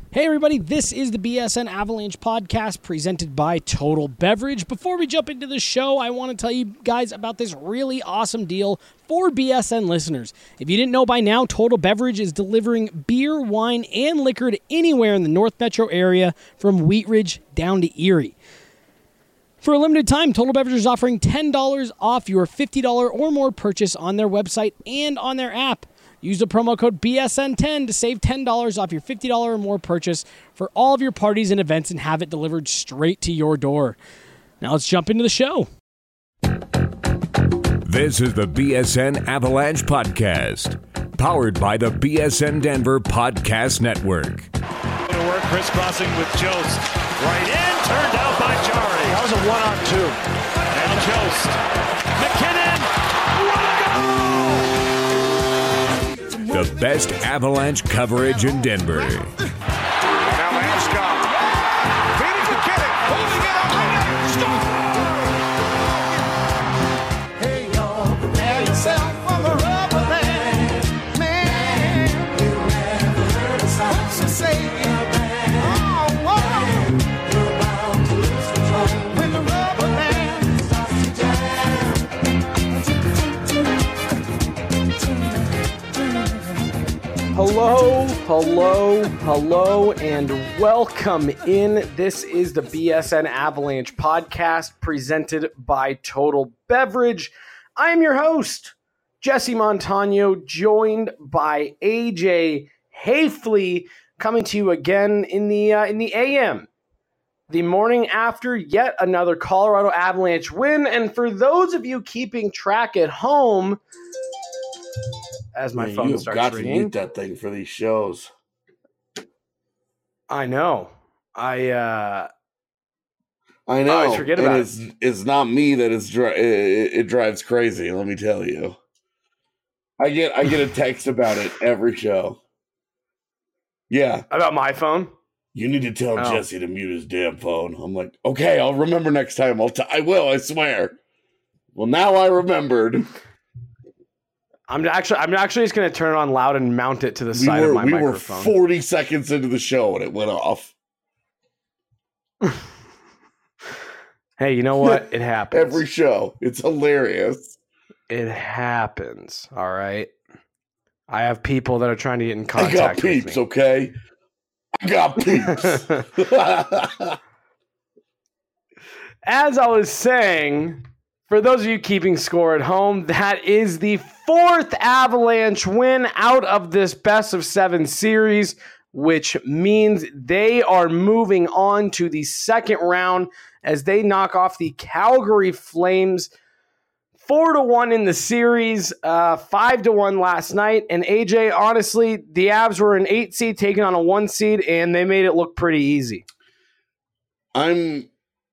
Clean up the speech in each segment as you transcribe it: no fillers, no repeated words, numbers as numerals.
Hey everybody, this is the BSN Avalanche podcast presented by Total Beverage. Before we jump into the show, I want to tell you guys about this really awesome deal for BSN listeners. If you didn't know by now, Total Beverage is delivering beer, wine, and liquor to anywhere in the North Metro area from Wheat Ridge down to Erie. For a limited time, Total Beverage is offering $10 off your $50 or more purchase on their website and on their app. Use the promo code BSN10 to save $10 off your $50 or more purchase for all of your parties and events and have it delivered straight to your door. Now let's jump into the show. This is the BSN Avalanche Podcast, powered by the BSN Denver Podcast Network. To work, crisscrossing with Jost. Right in, turned out by Jari. That was a 1-on-2. And Jost. McKinnon. The best Avalanche coverage in Denver. Now Landeskog. Feeding McKinnon. Holding it up. Hey, y'all, prepare yourself for the rubber band. Man, you never heard a sound so say it. Oh, whoa. You're bound to lose control when the rubber band starts to jam. Hello, and welcome in. This is the BSN Avalanche podcast presented by Total Beverage. I am your host, Jesse Montano, joined by AJ Hafley, coming to you again in the AM, the morning after yet another Colorado Avalanche win. And for those of you keeping track at home, as my phone starts got ringing, to mute that thing for these shows. I know. I know. always forget about it. It's not me that it drives crazy. Let me tell you. I get a text about it every show. Yeah, About my phone? you need to tell Jesse to mute his damn phone. I'm like, okay, I'll remember next time. I will. I swear. Well, now I remembered. I'm actually just going to turn it on loud and mount it to the side of my microphone. We were 40 seconds into the show and it went off. Hey, you know what? It happens. Every show. It's hilarious. It happens. All right. I have people that are trying to get in I contact got peeps, with me. okay? I got peeps. As I was saying, for those of you keeping score at home, that is the fourth Avalanche win out of this best-of-7 series, which means they are moving on to the second round as they knock off the Calgary Flames 4-1 in the series, 5-1 last night. And AJ, honestly, the Avs were an 8 seed taking on a 1 seed, and they made it look pretty easy. I'm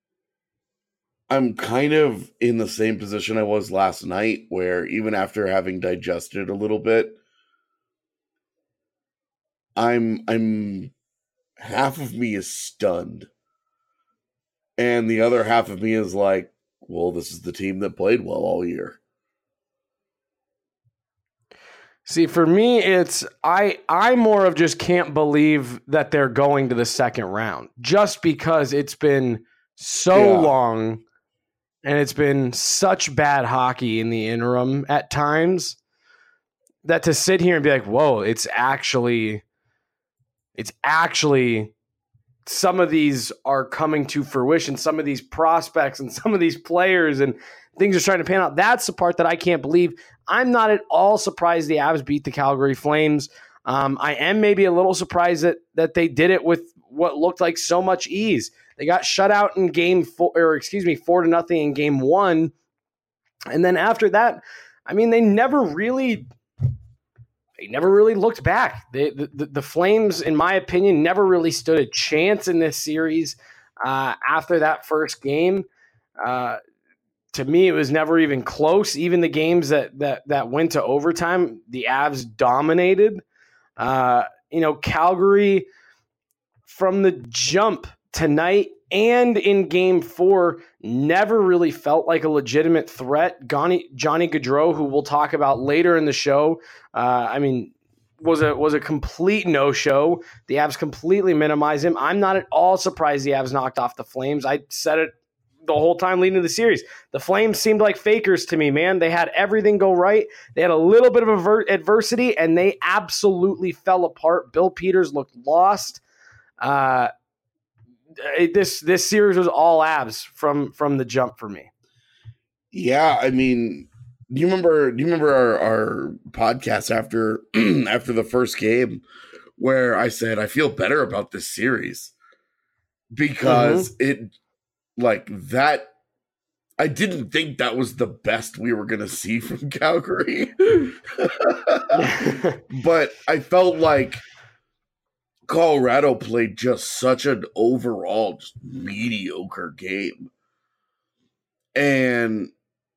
kind of in the same position I was last night, where even after having digested a little bit, I'm half of me is stunned. And the other half of me is like, well, this is the team that played well all year. See, for me, it's I more of just can't believe that they're going to the second round, just because it's been so long and it's been such bad hockey in the interim at times that to sit here and be like, whoa, it's actually some of these are coming to fruition. Some of these prospects and some of these players and things are starting to pan out. That's the part that I can't believe. I'm not at all surprised the Avs beat the Calgary Flames. I am maybe a little surprised that they did it with what looked like so much ease. They got shut out in 4-0 in game 1. And then after that, I mean, they never really looked back. The Flames, in my opinion, never really stood a chance in this series after that first game. To me, it was never even close. Even the games that went to overtime, the Avs dominated. Calgary, from the jump tonight and in game 4, never really felt like a legitimate threat. Johnny Gaudreau, who we'll talk about later in the show, was a complete no-show. The Avs completely minimized him. I'm not at all surprised the Avs knocked off the Flames. I said it the whole time leading to the series. The Flames seemed like fakers to me, man. They had everything go right. They had a little bit of adversity, and they absolutely fell apart. Bill Peters looked lost. This series was all Avs from the jump for me. Yeah, I mean, do you remember our podcast after after the first game where I said I feel better about this series because it like that. I didn't think that was the best we were going to see from Calgary. But I felt like Colorado played just such an overall just mediocre game. And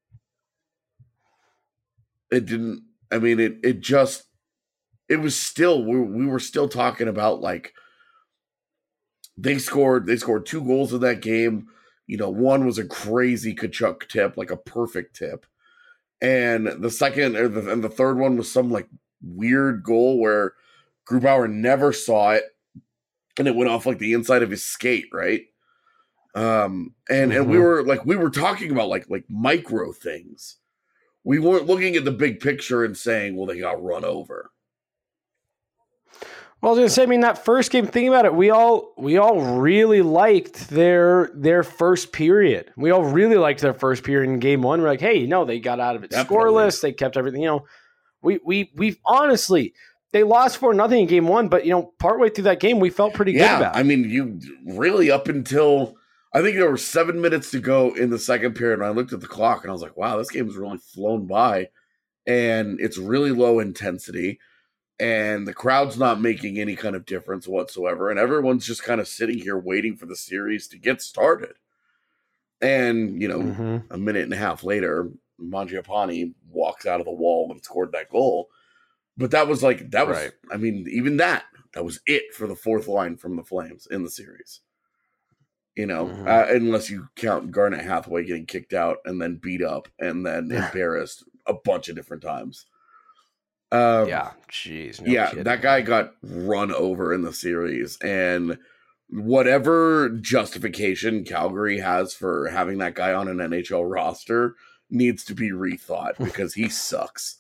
it didn't, I mean, it was still, we were still talking about like, they scored 2 goals in that game. You know, one was a crazy Tkachuk tip, like a perfect tip. And the second and the third one was some like weird goal where Grubauer never saw it and it went off like the inside of his skate, right? And we were talking about like micro things. We weren't looking at the big picture and saying, well, they got run over. Well, I was going to say, I mean, that first game, think about it. We all really liked their first period. We all really liked their first period in game one. We're like, hey, they got out of it scoreless. They kept everything, we honestly, they lost 4-0 in game one, but, partway through that game, we felt pretty good about it. I mean, you really up until, I think there were 7 minutes to go in the second period, and I looked at the clock, and I was like, wow, this game's really flown by, and it's really low intensity. And the crowd's not making any kind of difference whatsoever. And everyone's just kind of sitting here waiting for the series to get started. And, a minute and a half later, Mangiapane walks out of the wall and scored that goal. But that was, I mean, even that was it for the fourth line from the Flames in the series. Unless you count Garnet Hathaway getting kicked out and then beat up and then embarrassed a bunch of different times. Kidding. That guy got run over in the series, and whatever justification Calgary has for having that guy on an NHL roster needs to be rethought because he sucks.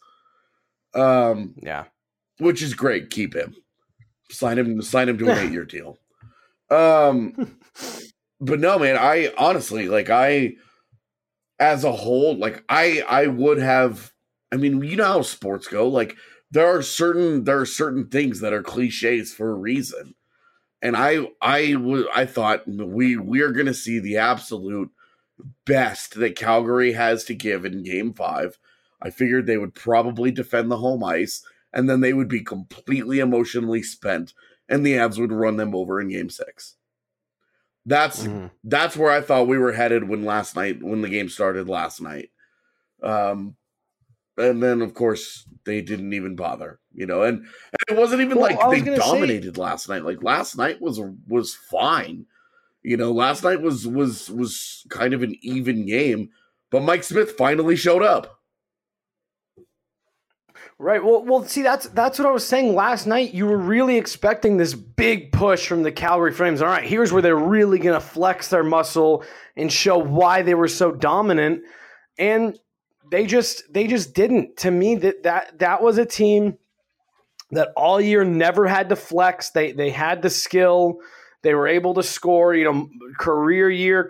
Which is great. Keep him. Sign him to an 8-year deal. But no, man, I honestly, as a whole, I would have. I mean, you know how sports go. Like there are certain things that are cliches for a reason, and I thought we are going to see the absolute best that Calgary has to give in Game 5. I figured they would probably defend the home ice, and then they would be completely emotionally spent, and the Avs would run them over in Game 6. That's where I thought we were headed when the game started last night. And then, of course, they didn't even bother, and it wasn't even they dominated last night. Like last night was fine. Last night was kind of an even game, but Mike Smith finally showed up. Right. Well, see, that's what I was saying last night. You were really expecting this big push from the Calgary Flames. All right, here's where they're really going to flex their muscle and show why they were so dominant. And They just didn't. To me, that was a team that all year never had to flex. They had the skill. They were able to score, career year.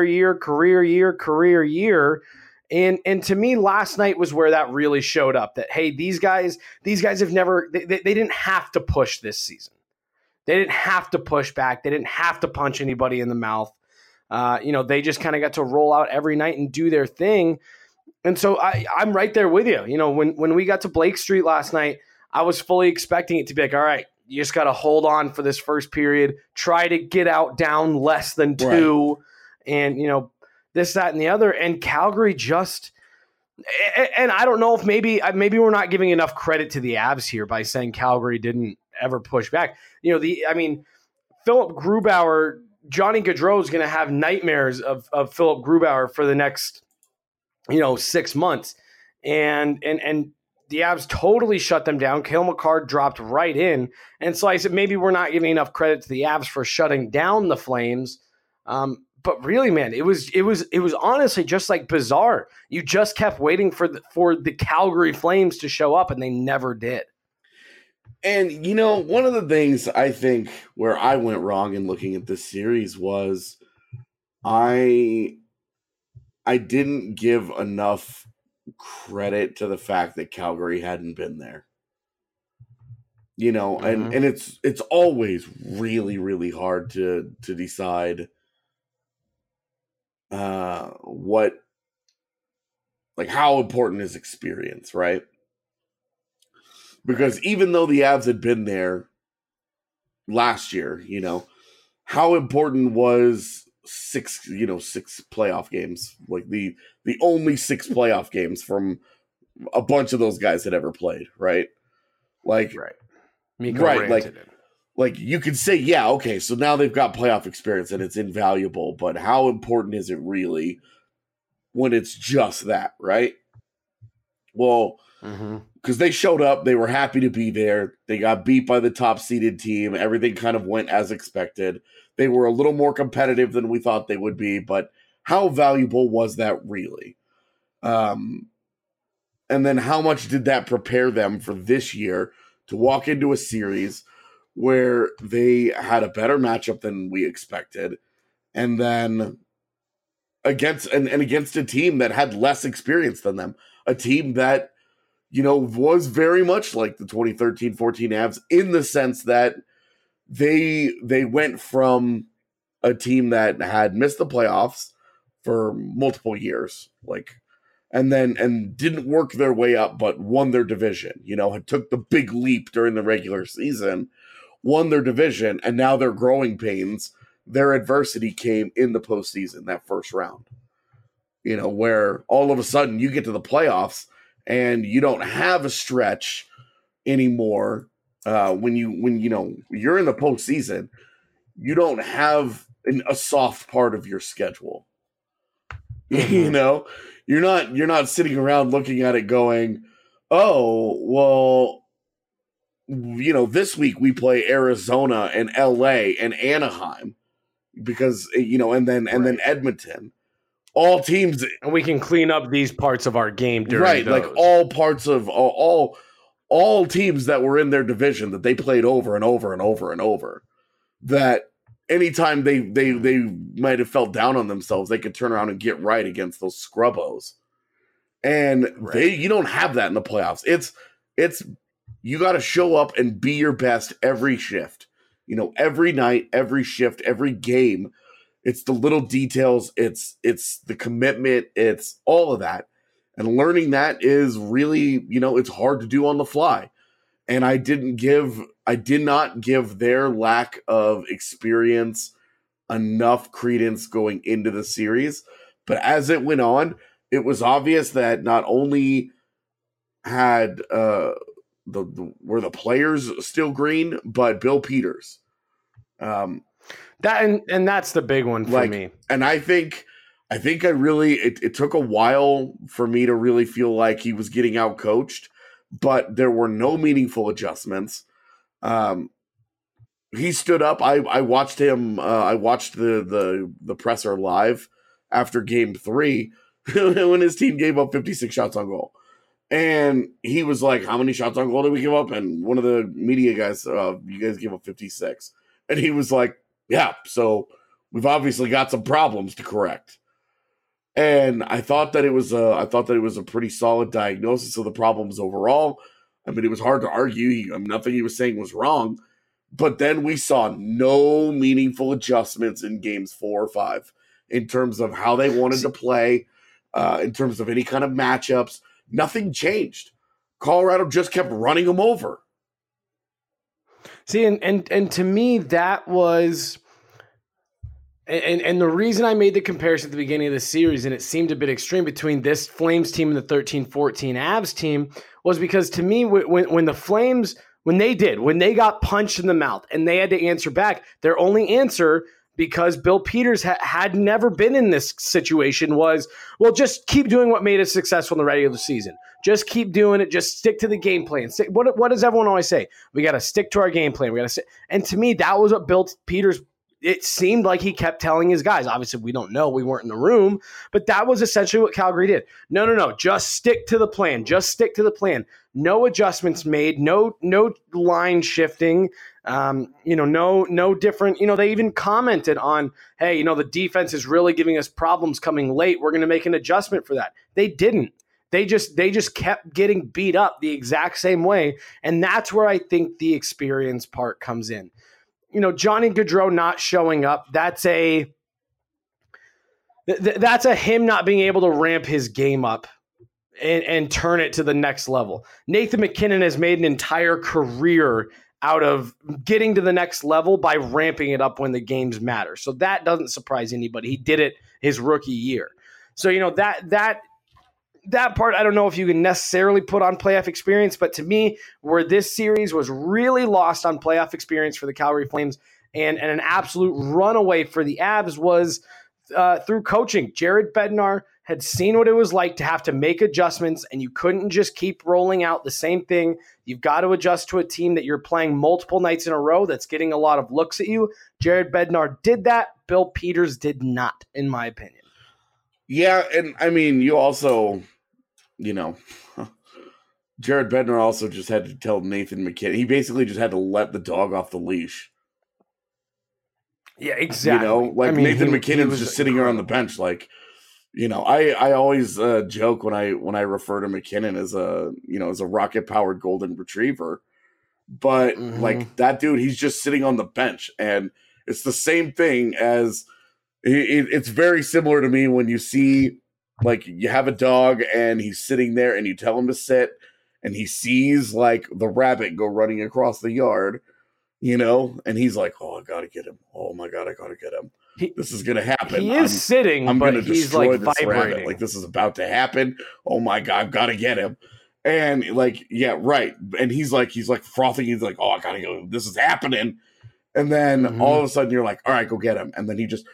And to me, last night was where that really showed up. That hey, these guys have never. They didn't have to push this season. They didn't have to push back. They didn't have to punch anybody in the mouth. They just kind of got to roll out every night and do their thing. And so I'm right there with you. When we got to Blake Street last night, I was fully expecting it to be like, all right, you just got to hold on for this first period, try to get out down less than 2, and, this, that, and the other. And Calgary just – and I don't know if maybe we're not giving enough credit to the Avs here by saying Calgary didn't ever push back. Philip Grubauer, Johnny Gaudreau is going to have nightmares of Philip Grubauer for the next – 6 months. And the Avs totally shut them down. Cale Makar dropped right in. And so I said, maybe we're not giving enough credit to the Avs for shutting down the Flames. But really, man, it was honestly just like bizarre. You just kept waiting for the Calgary Flames to show up, and they never did. And, you know, one of the things I think where I went wrong in looking at this series was I didn't give enough credit to the fact that Calgary hadn't been there. You know, and it's always really, really hard to decide what, like, how important is experience, right? Because even though the Avs had been there last year, you know, how important was six playoff games, like the only 6 playoff games from a bunch of those guys had ever played, right? Like, right. Mikko Rantanen. Like you could say, yeah, okay, so now they've got playoff experience and it's invaluable, but how important is it really when it's just that, right? Well, because they showed up, they were happy to be there. They got beat by the top-seeded team. Everything kind of went as expected. They were a little more competitive than we thought they would be, but how valuable was that really? And then how much did that prepare them for this year to walk into a series where they had a better matchup than we expected, and then against a team that had less experience than them, a team that, you know, was very much like the 2013-14 Avs in the sense that they went from a team that had missed the playoffs for multiple years, and didn't work their way up, but won their division, you know, had took the big leap during the regular season, won their division, and now their growing pains, their adversity came in the postseason, that first round, you know, where all of a sudden you get to the playoffs and you don't have a stretch anymore. When you know you're in the postseason, you don't have a soft part of your schedule. You know, you're not sitting around looking at it going, oh, well, you know, this week we play Arizona and LA and Anaheim because, you know, and then Edmonton. All teams, and we can clean up these parts of our game during those. Like all parts of all teams that were in their division that they played over and over and over and over. That anytime they might have felt down on themselves, they could turn around and get right against those scrubbos. And you don't have that in the playoffs. It's you got to show up and be your best every shift. You know, every night, every shift, every game. It's the little details. It's the commitment. It's all of that. And learning that is really, you know, it's hard to do on the fly. And I did not give their lack of experience enough credence going into the series. But as it went on, it was obvious that not only had were the players still green, but Bill Peters. That's the big one for me. And I think I really it took a while for me to really feel like he was getting out coached, but there were no meaningful adjustments. He stood up. I watched him. I watched the presser live after Game 3 when his team gave up 56 shots on goal. And he was like, how many shots on goal did we give up? And one of the media guys, you guys gave up 56. And he was like, yeah, so we've obviously got some problems to correct. And I thought that it was a pretty solid diagnosis of the problems overall. I mean, it was hard to argue. Nothing he was saying was wrong. But then we saw no meaningful adjustments in games 4 or 5 in terms of how they wanted to play, in terms of any kind of matchups. Nothing changed. Colorado just kept running them over. See, and to me, that was, and the reason I made the comparison at the beginning of the series, and it seemed a bit extreme between this Flames team and the 13-14 Avs team, was because to me, when the Flames, when they got punched in the mouth and they had to answer back, their only answer, because Bill Peters had never been in this situation, was, well, just keep doing what made us successful in the regular season. Just keep doing it. Just stick to the game plan. What does everyone always say? We got to stick to our game plan. We got to. And to me, that was what built Peters. It seemed like he kept telling his guys. Obviously, we don't know. We weren't in the room. But that was essentially what Calgary did. No. Just stick to the plan. Just stick to the plan. No adjustments made. No line shifting. No different. They even commented on, hey, the defense is really giving us problems coming late. We're going to make an adjustment for that. They didn't. They just kept getting beat up the exact same way. And that's where I think the experience part comes in. Johnny Gaudreau not showing up, that's a him not being able to ramp his game up and turn it to the next level. Nathan MacKinnon has made an entire career out of getting to the next level by ramping it up when the games matter. So that doesn't surprise anybody. He did it his rookie year. So, that part, I don't know if you can necessarily put on playoff experience, but to me, where this series was really lost on playoff experience for the Calgary Flames and an absolute runaway for the Avs was through coaching. Jared Bednar had seen what it was like to have to make adjustments, and you couldn't just keep rolling out the same thing. You've got to adjust to a team that you're playing multiple nights in a row that's getting a lot of looks at you. Jared Bednar did that. Bill Peters did not, in my opinion. Yeah, and I mean, you also, Jared Bednar also just had to tell Nathan MacKinnon. He basically just had to let the dog off the leash. Yeah, exactly. Nathan MacKinnon's just sitting here on the bench. I always joke when I refer to MacKinnon as a rocket powered golden retriever, but that dude, he's just sitting on the bench, and it's the same thing as. It's very similar to me when you see, you have a dog and he's sitting there and you tell him to sit and he sees, the rabbit go running across the yard, and he's like, oh, I got to get him. Oh, my God, I got to get him. This is going to happen. He is sitting, I'm but going to he's, destroy this vibrating. rabbit. This is about to happen. Oh, my God, I've got to get him. And, yeah, right. And he's frothing. He's like, oh, I got to go. This is happening. And then all of a sudden you're like, all right, go get him. And then he just,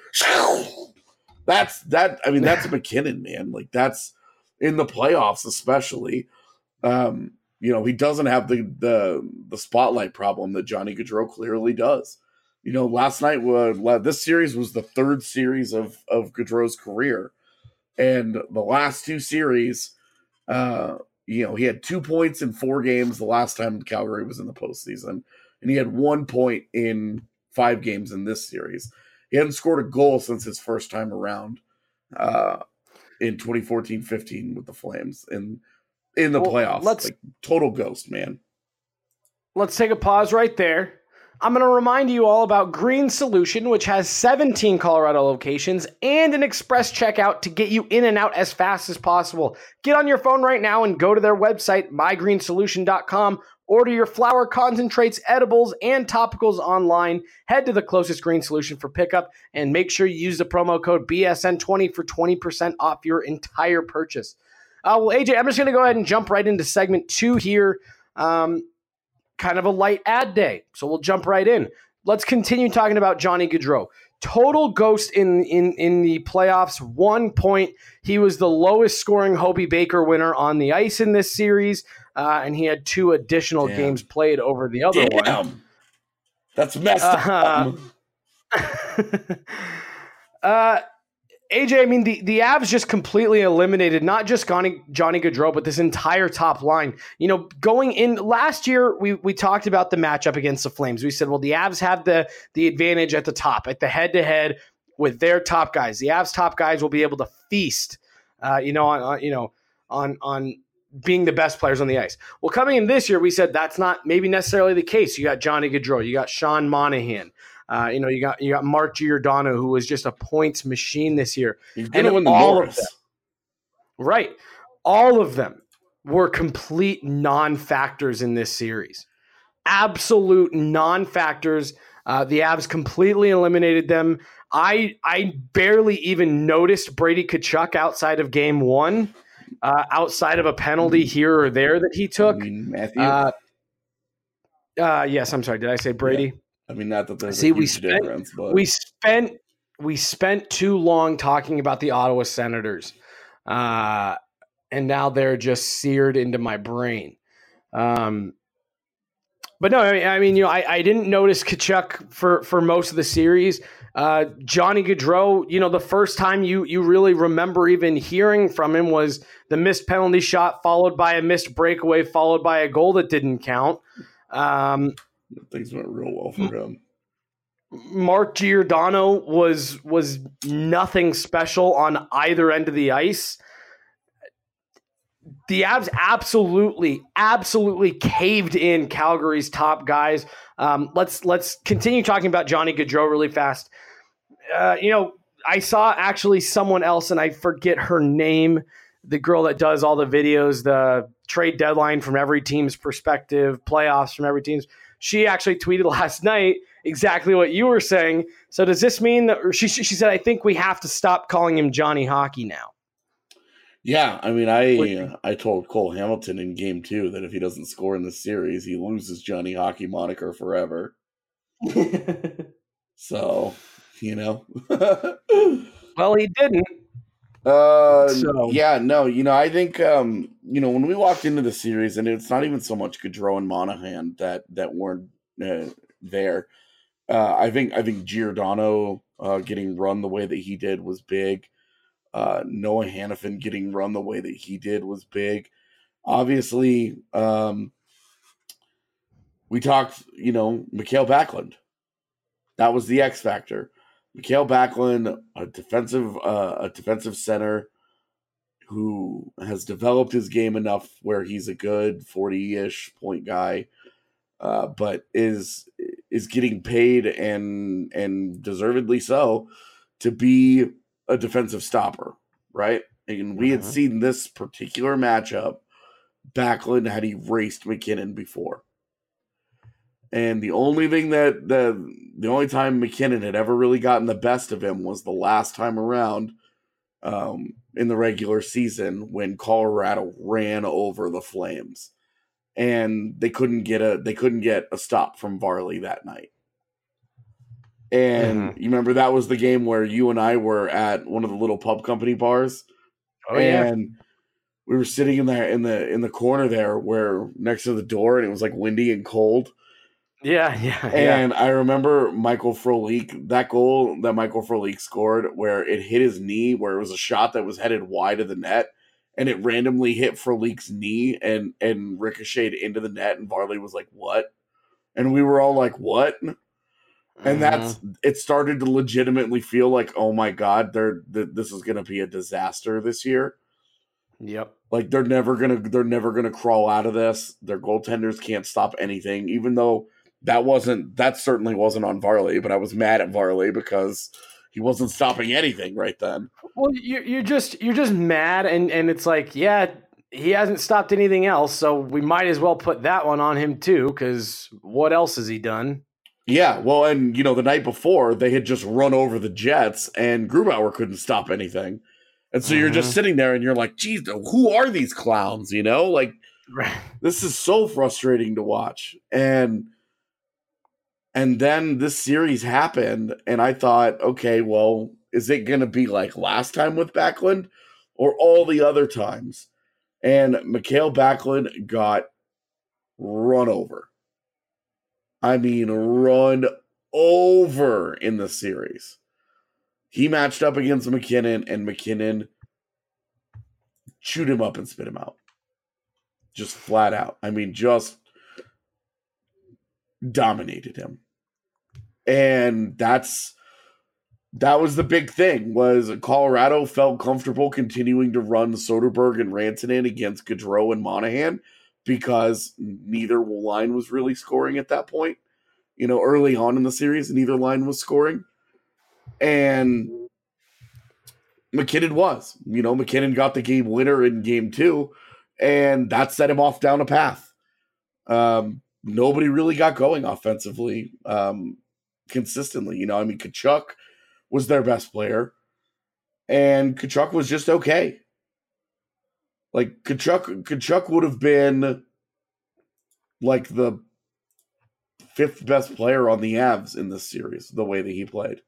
that's MacKinnon, man. That's in the playoffs, especially. He doesn't have the spotlight problem that Johnny Gaudreau clearly does. Last night, this series was the third series of Gaudreau's career. And the last two series, he had 2 points in 4 games the last time Calgary was in the postseason. And he had 1 point in 5 games in this series. He hadn't scored a goal since his first time around in 2014-15 with the Flames in the playoffs. Total ghost, man. Let's take a pause right there. I'm going to remind you all about Green Solution, which has 17 Colorado locations and an express checkout to get you in and out as fast as possible. Get on your phone right now and go to their website, mygreensolution.com. Order your flower concentrates, edibles, and topicals online. Head to the closest Green Solution for pickup and make sure you use the promo code BSN20 for 20% off your entire purchase. AJ, I'm just going to go ahead and jump right into segment 2 here. Kind of a light ad day, so we'll jump right in. Let's continue talking about Johnny Gaudreau. Total ghost in the playoffs, 1 point. He was the lowest scoring Hobey Baker winner on the ice in this series. And he had 2 additional games played over the other one. That's messed up. AJ, I mean, the Avs just completely eliminated not just Johnny Gaudreau, but this entire top line. Going in last year, we talked about the matchup against the Flames. We said, well, the Avs have the advantage at the top, at the head-to-head with their top guys. The Avs top guys will be able to feast, on being the best players on the ice. Well, coming in this year, we said that's not maybe necessarily the case. You got Johnny Gaudreau, you got Sean Monahan, you got Mark Giordano, who was just a points machine this year. He's going to win the Norris. Right. All of them were complete non-factors in this series. Absolute non-factors. The Avs completely eliminated them. I barely even noticed Brady Tkachuk outside of game 1. Outside of a penalty here or there that he took. Matthew? Yes, I'm sorry. Did I say Brady? Yeah. Not that there's a huge difference. But We spent too long talking about the Ottawa Senators. and now they're just seared into my brain. But no, I mean, I didn't notice Tkachuk for most of the series. Johnny Gaudreau, the first time you really remember even hearing from him was the missed penalty shot, followed by a missed breakaway, followed by a goal that didn't count. Things went real well for him. Mark Giordano was nothing special on either end of the ice. The Avs absolutely caved in Calgary's top guys. Let's continue talking about Johnny Gaudreau really fast. I saw actually someone else, and I forget her name, the girl that does all the videos, the trade deadline from every team's perspective, playoffs from every team's. She actually tweeted last night exactly what you were saying. So does this mean that she said, I think we have to stop calling him Johnny Hockey now? Yeah, I mean, I told Cole Hamilton in Game 2 that if he doesn't score in the series, he loses Johnny Hockey moniker forever. So, Well, he didn't. Yeah, no, I think, when we walked into the series, and it's not even so much Gaudreau and Monahan that weren't there. I think Giordano getting run the way that he did was big. Noah Hannafin getting run the way that he did was big. Obviously, we talked, Mikael Backlund. That was the X factor. Mikael Backlund, a defensive center who has developed his game enough where he's a good 40-ish point guy, but is getting paid and deservedly so to be a defensive stopper, right? And we had seen this particular matchup. Backlund had erased McKinnon before. And the only thing the only time McKinnon had ever really gotten the best of him was the last time around in the regular season when Colorado ran over the Flames. And they couldn't get a stop from Varley that night. And you remember that was the game where you and I were at one of the little pub company bars. Oh, yeah. And we were sitting in there in the corner there where next to the door, and it was like windy and cold. Yeah. And I remember Michael Frolik, that goal that Michael Frolik scored where it hit his knee, where it was a shot that was headed wide of the net, and it randomly hit Frolik's knee and ricocheted into the net, and Varley was like, "What?" And we were all like, "What?" And it started to legitimately feel like, oh my God, this is going to be a disaster this year. Yep. Like they're never gonna crawl out of this. Their goaltenders can't stop anything, even though that certainly wasn't on Varley, but I was mad at Varley because he wasn't stopping anything right then. Well, you're just mad, and it's like, yeah, he hasn't stopped anything else, so we might as well put that one on him too, because what else has he done? Yeah, well, and the night before they had just run over the Jets, and Grubauer couldn't stop anything, and so you're just sitting there and you're like, "Geez, who are these clowns?" Like this is so frustrating to watch, and then this series happened, and I thought, okay, well, is it going to be like last time with Backlund, or all the other times? And Mikael Backlund got run over. I mean, run over in the series. He matched up against McKinnon, and McKinnon chewed him up and spit him out. Just flat out. I mean, just dominated him. And that was the big thing, was Colorado felt comfortable continuing to run Soderberg and Rantanen against Gaudreau and Monahan, because neither line was really scoring at that point. Early on in the series, neither line was scoring. And McKinnon was. McKinnon got the game winner in Game 2, and that set him off down a path. Nobody really got going offensively consistently. Tkachuk was their best player, and Tkachuk was just okay. Like, Tkachuk would have been like the 5th best player on the Avs in this series, the way that he played.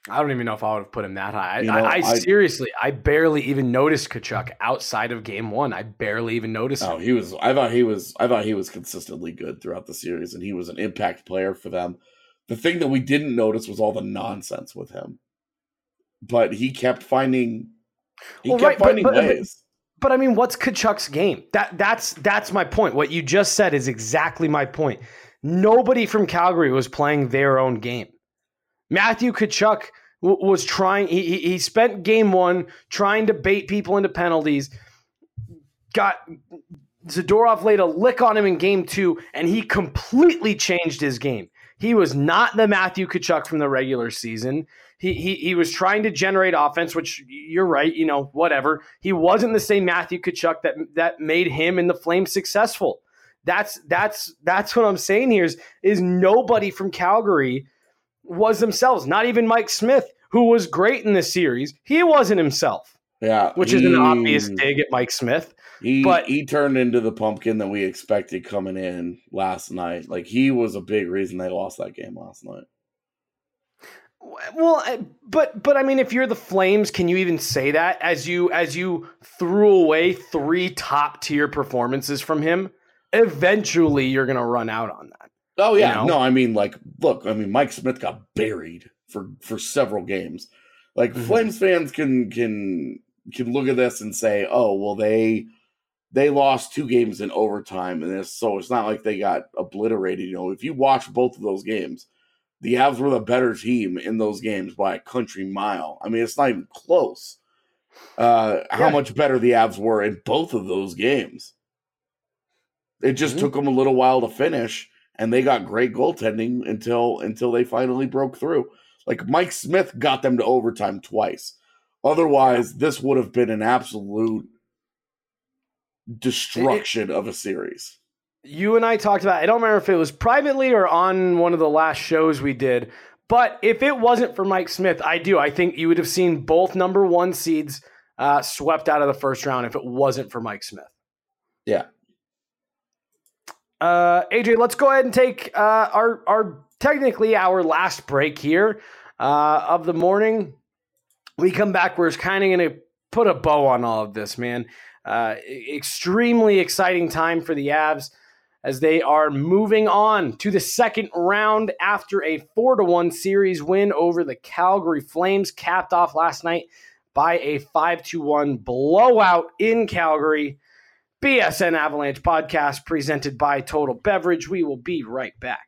I don't even know if I would have put him that high. I barely even noticed Tkachuk outside of game one. I barely even noticed him. I thought he was consistently good throughout the series, and he was an impact player for them. The thing that we didn't notice was all the nonsense with him. But he kept finding ways. But I mean, what's Tkachuk's game? That's my point. What you just said is exactly my point. Nobody from Calgary was playing their own game. Matthew Tkachuk was trying. He spent game one trying to bait people into penalties. Got Zadorov laid a lick on him in game two, and he completely changed his game. He was not the Matthew Tkachuk from the regular season. He was trying to generate offense, which you're right, whatever. He wasn't the same Matthew Tkachuk that made him and the Flames successful. That's what I'm saying here is nobody from Calgary was themselves. Not even Mike Smith, who was great in this series. He wasn't himself. Yeah, which is an obvious dig at Mike Smith. He turned into the pumpkin that we expected coming in last night. Like, he was a big reason they lost that game last night. Well, but I mean, if you're the Flames, can you even say that as you threw away 3 top tier performances from him? Eventually, you're going to run out on that. Oh yeah, no, I mean, Mike Smith got buried for several games. Like, Flames fans can look at this and say, oh, well, they lost 2 games in overtime, and so it's not like they got obliterated. If you watch both of those games, the Avs were the better team in those games by a country mile. I mean, it's not even close. How much better the Avs were in both of those games. It just took them a little while to finish, and they got great goaltending until they finally broke through. Like, Mike Smith got them to overtime twice. Otherwise, this would have been an absolute destruction of a series. You and I talked about, I don't remember if it was privately or on one of the last shows we did, but if it wasn't for Mike Smith, I think you would have seen both number 1 seeds swept out of the first round if it wasn't for Mike Smith. Yeah. AJ, let's go ahead and take our last break here of the morning. We come back, we're kind of going to put a bow on all of this, man. Extremely exciting time for the Avs as they are moving on to the second round after a 4-1 series win over the Calgary Flames, capped off last night by a 5-1 blowout in Calgary. BSN Avalanche podcast presented by Total Beverage. We will be right back.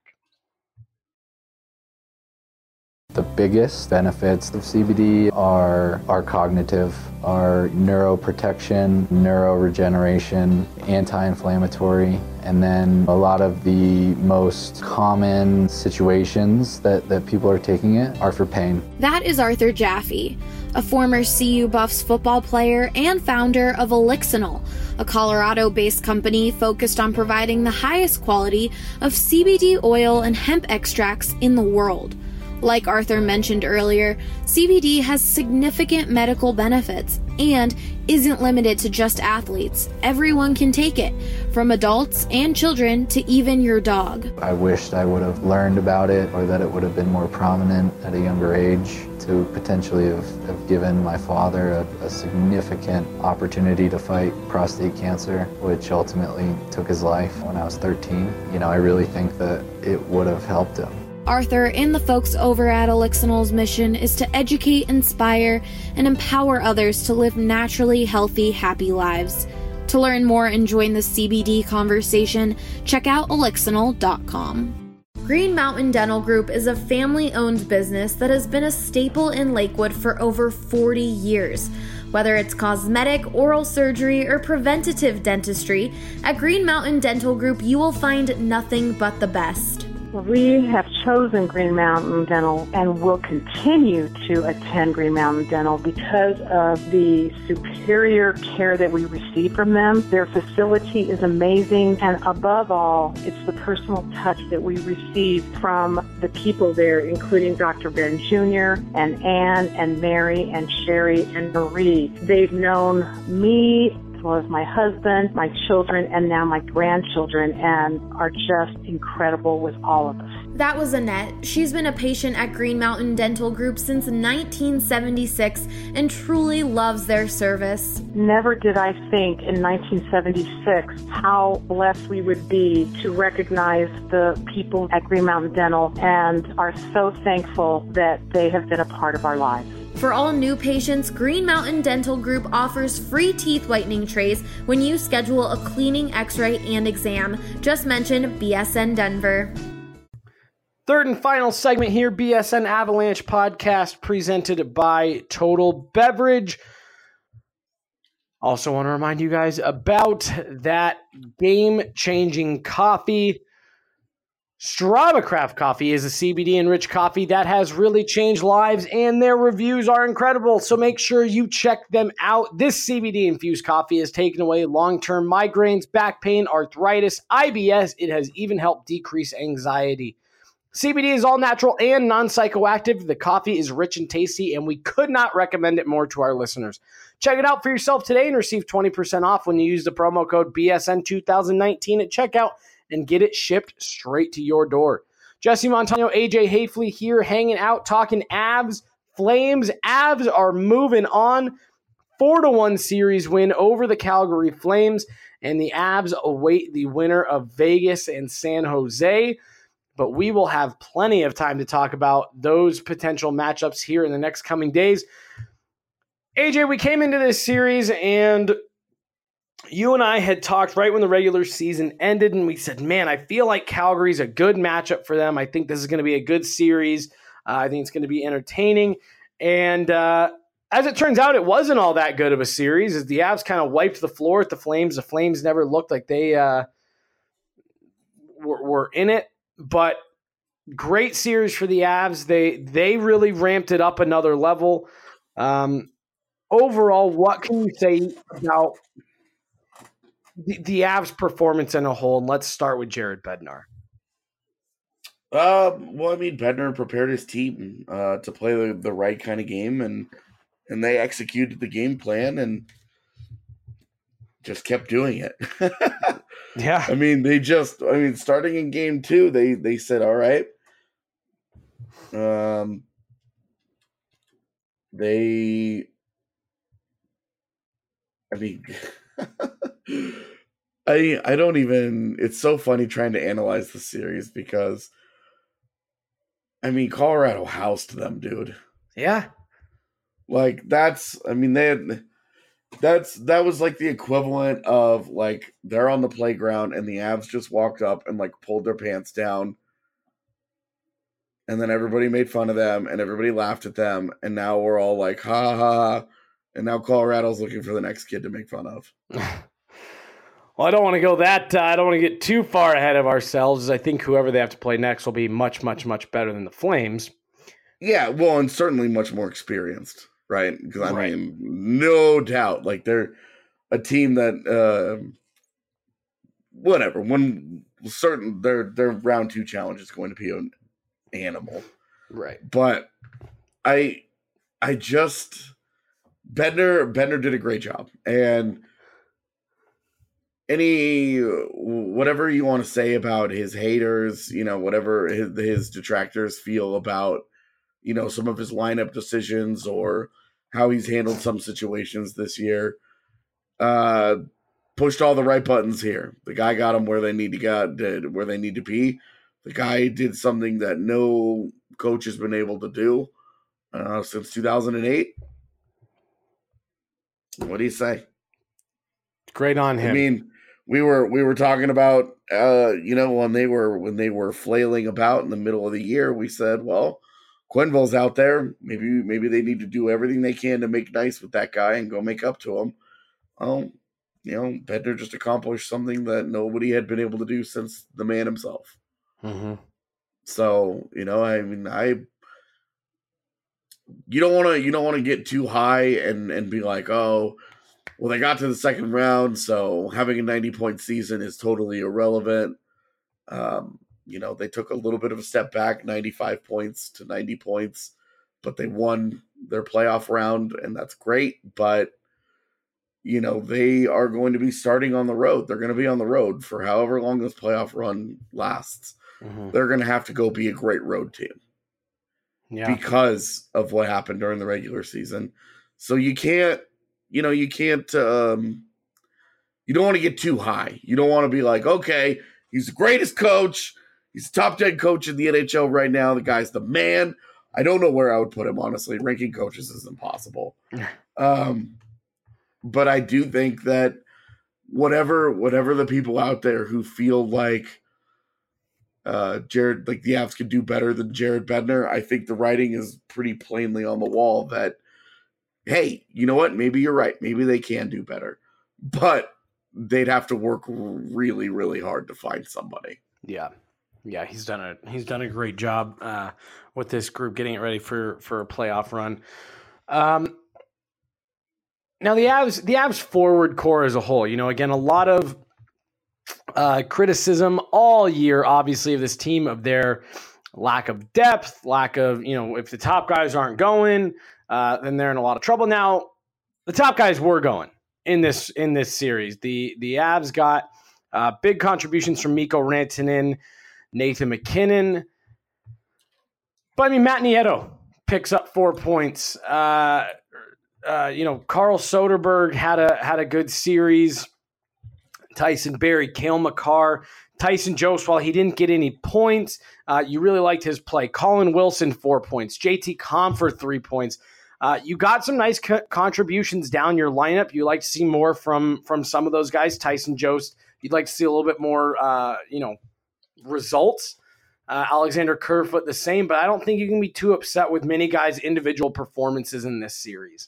The biggest benefits of CBD are cognitive, are neuroprotection, neuroregeneration, anti-inflammatory, and then a lot of the most common situations that people are taking it are for pain. That is Arthur Jaffe, a former CU Buffs football player and founder of Elixinol, a Colorado-based company focused on providing the highest quality of CBD oil and hemp extracts in the world. Like Arthur mentioned earlier, CBD has significant medical benefits and isn't limited to just athletes. Everyone can take it, from adults and children to even your dog. I wished I would have learned about it, or that it would have been more prominent at a younger age to potentially have given my father a significant opportunity to fight prostate cancer, which ultimately took his life when I was 13. I really think that it would have helped him. Arthur and the folks over at Elixinol's mission is to educate, inspire, and empower others to live naturally healthy, happy lives. To learn more and join the CBD conversation, check out Elixinol.com. Green Mountain Dental Group is a family-owned business that has been a staple in Lakewood for over 40 years. Whether it's cosmetic, oral surgery, or preventative dentistry, at Green Mountain Dental Group you will find nothing but the best. We have chosen Green Mountain Dental and will continue to attend Green Mountain Dental because of the superior care that we receive from them. Their facility is amazing, and above all, it's the personal touch that we receive from the people there, including Dr. Ben Jr. and Ann and Mary and Sherry and Marie. They've known me as well as my husband, my children, and now my grandchildren, and are just incredible with all of us. That was Annette. She's been a patient at Green Mountain Dental Group since 1976 and truly loves their service. Never did I think in 1976 how blessed we would be to recognize the people at Green Mountain Dental, and are so thankful that they have been a part of our lives. For all new patients, Green Mountain Dental Group offers free teeth whitening trays when you schedule a cleaning, x-ray, and exam. Just mention BSN Denver. Third and final segment here, BSN Avalanche podcast presented by Total Beverage. Also want to remind you guys about that game-changing coffee. Strava Craft Coffee is a CBD-enriched coffee that has really changed lives, and their reviews are incredible, so make sure you check them out. This CBD-infused coffee has taken away long-term migraines, back pain, arthritis, IBS. It has even helped decrease anxiety. CBD is all natural and non-psychoactive. The coffee is rich and tasty, and we could not recommend it more to our listeners. Check it out for yourself today and receive 20% off when you use the promo code BSN2019 at checkout and get it shipped straight to your door. Jesse Montano, AJ Hafley here hanging out, talking Avs, Flames. Avs are moving on. 4-1 series win over the Calgary Flames, and the Avs await the winner of Vegas and San Jose. But we will have plenty of time to talk about those potential matchups here in the next coming days. AJ, we came into this series and you and I had talked right when the regular season ended, and we said, man, I feel like Calgary's a good matchup for them. I think this is going to be a good series. I think it's going to be entertaining. And as it turns out, it wasn't all that good of a series as the Avs kind of wiped the floor at the Flames. The Flames never looked like they were in it. But great series for the Avs. They really ramped it up another level. Overall, what can you say about the Avs' performance in a whole? And let's start with Jared Bednar. Well, I mean, Bednar prepared his team to play the right kind of game, and they executed the game plan and just kept doing it. Yeah. I mean, starting in game 2, they said, all right. I don't even, it's so funny trying to analyze the series because, I mean, Colorado housed them, dude. Yeah. Like, that was like the equivalent of like they're on the playground and the Avs just walked up and like pulled their pants down, and then everybody made fun of them and everybody laughed at them, and now we're all like ha ha, and now Colorado's looking for the next kid to make fun of. Well, I don't want to go I don't want to get too far ahead of ourselves. I think whoever they have to play next will be much, much, much better than the Flames. Yeah, well, and certainly much more experienced. Right, because I mean, no doubt, like they're a team that, whatever. Their round 2 challenge is going to be an animal, right? But I just Bednar did a great job, and whatever you want to say about his haters, whatever his detractors feel about. Some of his lineup decisions or how he's handled some situations this year. Pushed all the right buttons here. The guy got them where they need to be. The guy did something that no coach has been able to do since 2008. What do you say? Great on him. I mean, we were talking about when they were flailing about in the middle of the year. We said, well, Quenneville's out there. Maybe they need to do everything they can to make nice with that guy and go make up to him. Bednar just accomplished something that nobody had been able to do since the man himself. Mm-hmm. So, you don't want to get too high and be like, oh, well, they got to the second round, so having a 90-point season is totally irrelevant. They took a little bit of a step back, 95 points to 90 points, but they won their playoff round, and that's great. But, they are going to be starting on the road. They're going to be on the road for however long this playoff run lasts. they're going to have to go be a great road team. Yeah. Because of what happened during the regular season. So you don't want to get too high. You don't want to be like, okay, he's the greatest coach. He's the top 10 coach in the NHL right now. The guy's the man. I don't know where I would put him, honestly. Ranking coaches is impossible. But I do think that whatever the people out there who feel like Jared, like the Avs could do better than Jared Bednar, I think the writing is pretty plainly on the wall that, hey, you know what? Maybe you're right. Maybe they can do better. But they'd have to work really, really hard to find somebody. Yeah. Yeah, he's done a great job with this group getting it ready for a playoff run. Now the Avs forward core as a whole, again, a lot of criticism all year, obviously, of this team, of their lack of depth, lack of, if the top guys aren't going, then they're in a lot of trouble. Now, the top guys were going in this series. The Avs got big contributions from Mikko Rantanen, Nathan McKinnon. But Matt Nieto picks up 4 points. Carl Soderberg had a good series. Tyson Barrie, Cale Makar, Tyson Jost, while he didn't get any points, you really liked his play. Colin Wilson, 4 points. JT Compher, 3 points. You got some nice contributions down your lineup. You like to see more from some of those guys. Tyson Jost, you'd like to see a little bit more, results. Alexander Kerfoot, the same, but I don't think you can be too upset with many guys' individual performances in this series.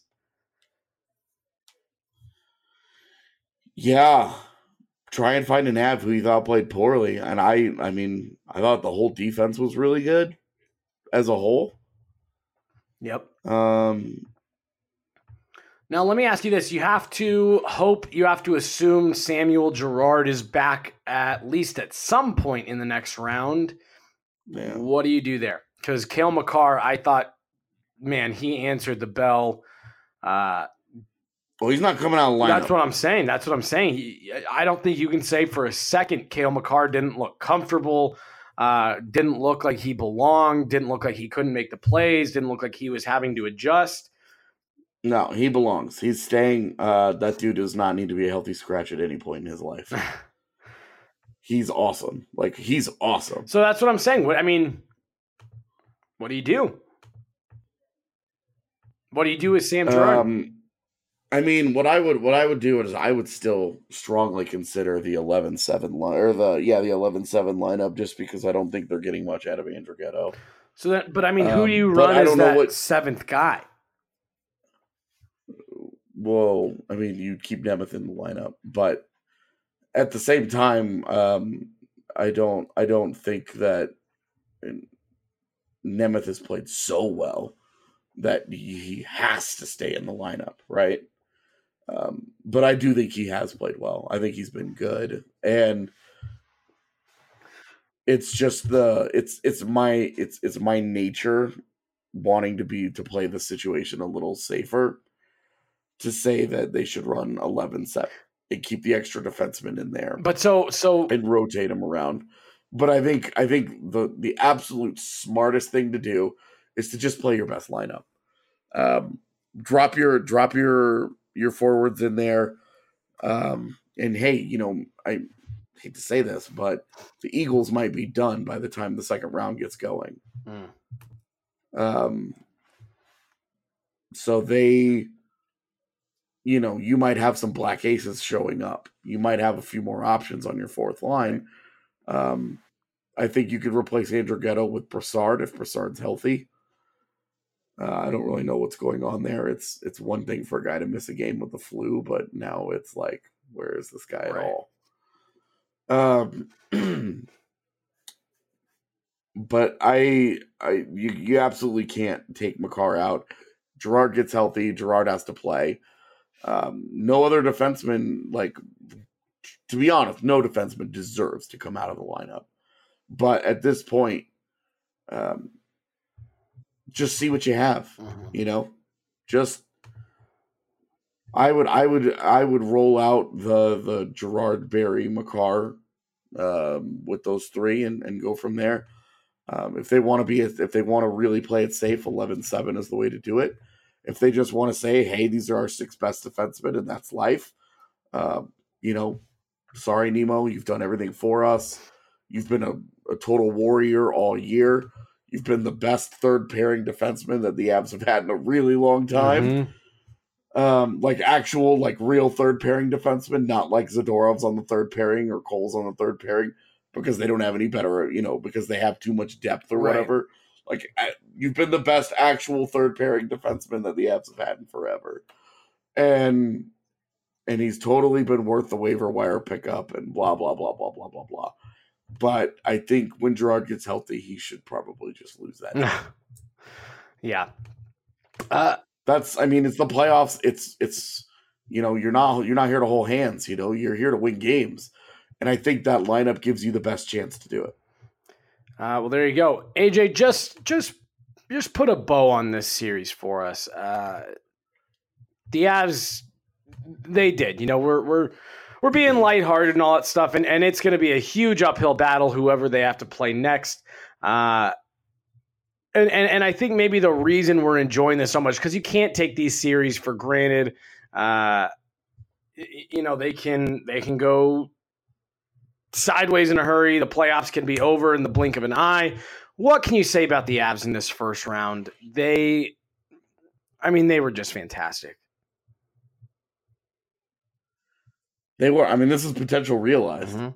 Yeah. Try and find an Av who you thought played poorly. And I thought the whole defense was really good as a whole. Yep. Now, let me ask you this. You have to assume Samuel Girard is back at least at some point in the next round. Yeah. What do you do there? Because Cale Makar, I thought, man, he answered the bell. Well, he's not coming out of the lineup. That's what I'm saying. I don't think you can say for a second Cale Makar didn't look comfortable, didn't look like he belonged, didn't look like he couldn't make the plays, didn't look like he was having to adjust. No, he belongs. He's staying. That dude does not need to be a healthy scratch at any point in his life. He's awesome. He's awesome. So that's what I'm saying. What do you do? What do you do with Sam Girard? What I would do is I would still strongly consider the 11-7 line, or the 11-7 lineup, just because I don't think they're getting much out of Andrew Ghetto. So that, but who do you run as that seventh guy? Well, you keep Nemeth in the lineup, but at the same time, I don't think that Nemeth has played so well that he has to stay in the lineup, right? But I do think he has played well. I think he's been good, and it's just it's my nature wanting to play the situation a little safer, to say that they should run 11-7 and keep the extra defenseman in there. But so and rotate them around. But I think the absolute smartest thing to do is to just play your best lineup. Drop your forwards in there. And hey, I hate to say this, but the Eagles might be done by the time the second round gets going. So they, you might have some black aces showing up. You might have a few more options on your fourth line. I think you could replace Andrew Ghetto with Brassard if Brassard's healthy. I don't really know what's going on there. It's one thing for a guy to miss a game with the flu, but now it's like, where is this guy at all? But you absolutely can't take Makar out. Girard gets healthy. Girard has to play. No other defenseman, to be honest, no defenseman deserves to come out of the lineup. But at this point, just see what you have. Just I would roll out the Girard, Barrie, Makar with those three and go from there. If they want to really play it safe, 11-7 is the way to do it. If they just want to say, hey, these are our 6 best defensemen and that's life, sorry, Nemo, you've done everything for us. You've been a total warrior all year. You've been the best third pairing defenseman that the Avs have had in a really long time. Mm-hmm. Real third pairing defenseman, not like Zadorov's on the third pairing or Cole's on the third pairing, because they don't have any better, because they have too much depth or whatever. Like, you've been the best actual third pairing defenseman that the Avs have had in forever. And he's totally been worth the waiver wire pickup and blah, blah, blah, blah, blah, blah, blah. But I think when Gerard gets healthy, he should probably just lose that. Yeah. It's the playoffs. It's you're not here to hold hands, you're here to win games. And I think that lineup gives you the best chance to do it. Well, there you go. AJ, just put a bow on this series for us. The Avs, they did. We're being lighthearted and all that stuff, and it's going to be a huge uphill battle, whoever they have to play next. And I think maybe the reason we're enjoying this so much, because you can't take these series for granted. They can go sideways in a hurry. The playoffs can be over in the blink of an eye. What can you say about the Avs in this first round? They were just fantastic. They were. This is potential realized. Mm-hmm.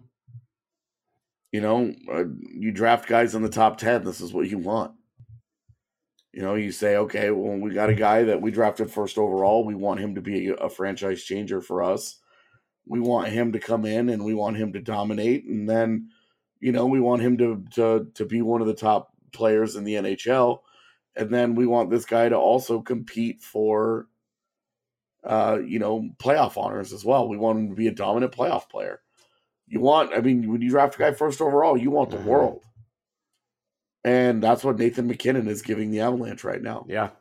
You draft guys in the top 10. This is what you want. You say, okay, well, we got a guy that we drafted first overall. We want him to be a franchise changer for us. We want him to come in and we want him to dominate. And then, we want him to be one of the top players in the NHL. And then we want this guy to also compete for, playoff honors as well. We want him to be a dominant playoff player. When you draft a guy first overall, you want the world. And that's what Nathan McKinnon is giving the Avalanche right now. Yeah.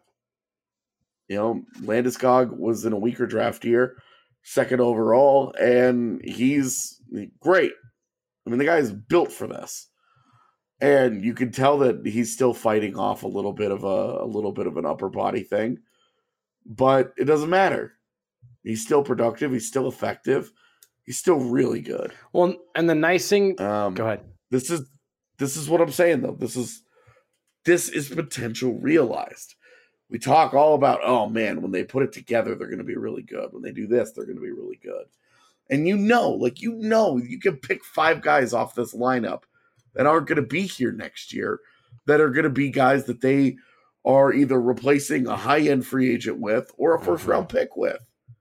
Landeskog was in a weaker draft year, second overall, and he's great. The guy is built for this. And you can tell that he's still fighting off a little bit of an upper body thing. But it doesn't matter. He's still productive. He's still effective. He's still really good. Well, and the nice thing, go ahead. This is what I'm saying, though. This is potential realized. We talk all about, oh man, when they put it together, they're going to be really good. When they do this, they're going to be really good. And you can pick 5 guys off this lineup that aren't going to be here next year, that are going to be guys that they are either replacing a high-end free agent with or a first-round pick with.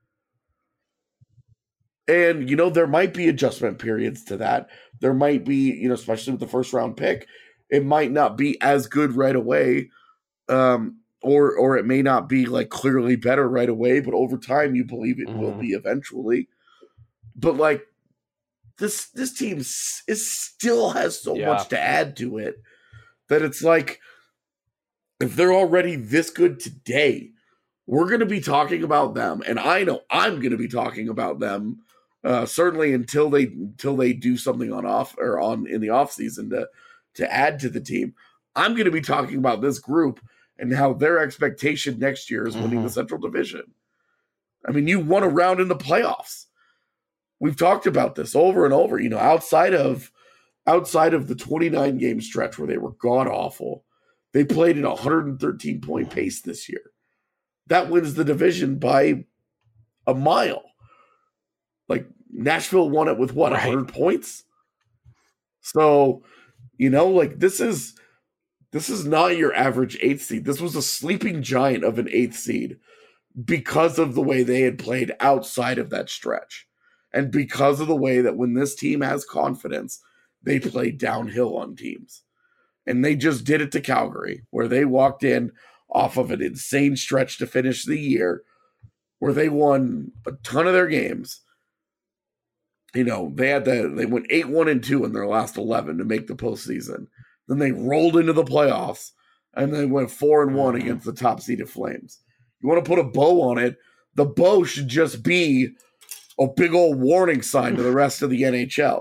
And, there might be adjustment periods to that. There might be, especially with the first-round pick, it might not be as good right away, or it may not be, clearly better right away, but over time you believe it will be eventually. But, this team still has so much to add to it that it's like, if they're already this good today, we're going to be talking about them. And I know I'm going to be talking about them certainly until they do something in the off season to add to the team. I'm going to be talking about this group and how their expectation next year is winning the Central Division. You won a round in the playoffs. We've talked about this over and over. Outside of the 29 game stretch where they were god awful, they played at a 113 point pace this year. That wins the division by a mile. Nashville won it with 100 points? So, this is not your average 8th seed. This was a sleeping giant of an 8th seed because of the way they had played outside of that stretch. And because of the way that when this team has confidence, they play downhill on teams. And they just did it to Calgary, where they walked in off of an insane stretch to finish the year, where they won a ton of their games. They went 8-1-2 in their last 11 to make the postseason. Then they rolled into the playoffs, and they went 4-1 against the top-seeded Flames. You want to put a bow on it, the bow should just be a big old warning sign to the rest of the NHL.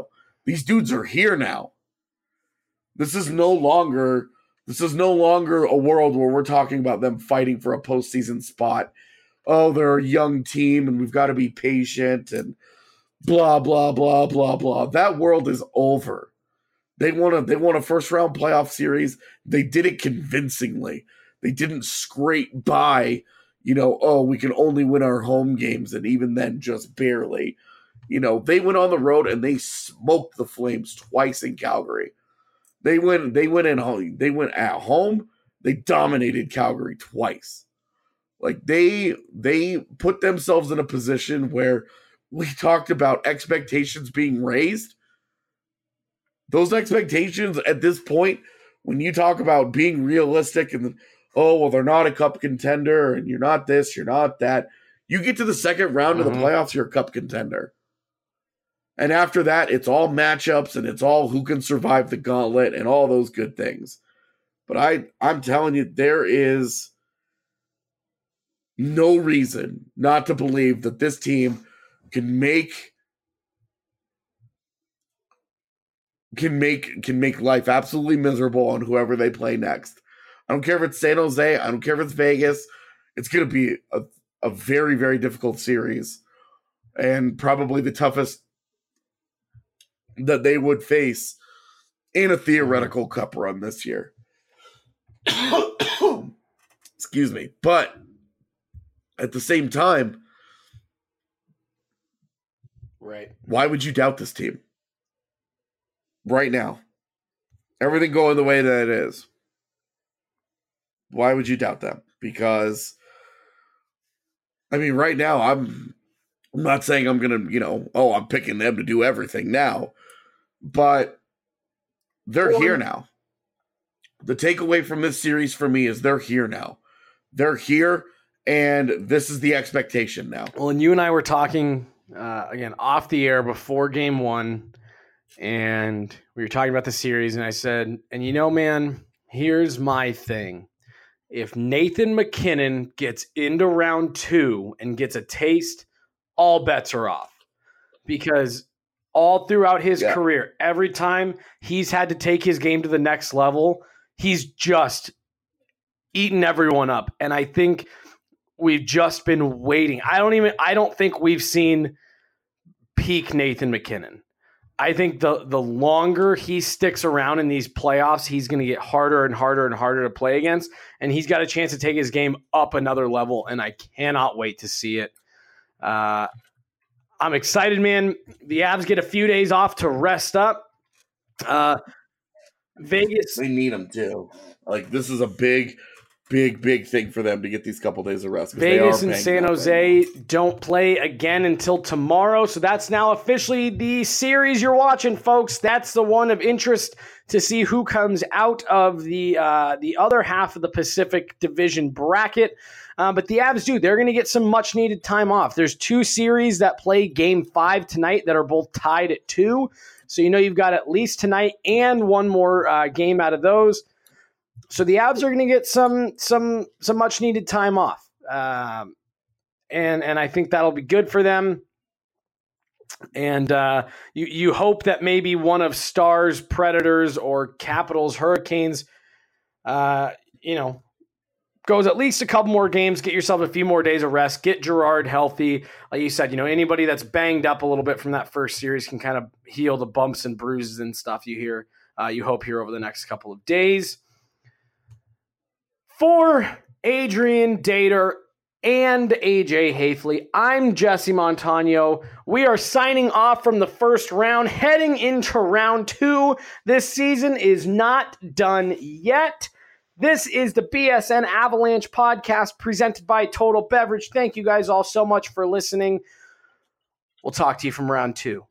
These dudes are here now. This is no longer a world where we're talking about them fighting for a postseason spot. Oh, they're a young team and we've got to be patient and blah, blah, blah, blah, blah. That world is over. They won a first round playoff series. They did it convincingly. They didn't scrape by, we can only win our home games, and even then just barely. They went on the road and they smoked the Flames twice in Calgary. They went at home. They dominated Calgary twice. Like they put themselves in a position where we talked about expectations being raised. Those expectations at this point, when you talk about being realistic and they're not a cup contender and you're not this, you're not that. You get to the second round of the playoffs, you're a cup contender. And after that, it's all matchups and it's all who can survive the gauntlet and all those good things. But I'm telling you, there is no reason not to believe that this team can make life absolutely miserable on whoever they play next. I don't care if it's San Jose. I don't care if it's Vegas. It's going to be a very, very difficult series and probably the toughest that they would face in a theoretical cup run this year. Excuse me. But at the same time, right? Why would you doubt this team right now? Everything going the way that it is. Why would you doubt them? Because, right now, I'm not saying I'm going to, I'm picking them to do everything now. But they're here now. The takeaway from this series for me is they're here now. They're here, and this is the expectation now. Well, and you and I were talking, again, off the air before game one, and we were talking about the series, and I said, and man, here's my thing. If Nathan MacKinnon gets into round 2 and gets a taste, all bets are off. Because all throughout his career, every time he's had to take his game to the next level, he's just eaten everyone up. And I think we've just been waiting. I don't think we've seen peak Nathan MacKinnon. I think the longer he sticks around in these playoffs, he's going to get harder and harder and harder to play against. And he's got a chance to take his game up another level. And I cannot wait to see it. I'm excited, man. The Avs get a few days off to rest up. Vegas. They need them too. This is a big thing for them to get these couple days of rest. Vegas and San Jose don't play again until tomorrow. So that's now officially the series you're watching, folks. That's the one of interest to see who comes out of the other half of the Pacific Division bracket. But the Avs they're going to get some much needed time off. There's 2 series that play game 5 tonight that are both tied at 2. So you've got at least tonight and one more game out of those. So the Avs are going to get some much needed time off. And I think that'll be good for them. And you hope that maybe one of Stars, Predators, or Capitals, Hurricanes, goes at least a couple more games, get yourself a few more days of rest, get Gerard healthy. Like you said, anybody that's banged up a little bit from that first series can kind of heal the bumps and bruises and stuff you hope here over the next couple of days. For Adrian Dater and AJ Hafley, I'm Jesse Montano. We are signing off from the first round, heading into round 2. This season is not done yet. This is the BSN Avalanche podcast presented by Total Beverage. Thank you guys all so much for listening. We'll talk to you from round 2.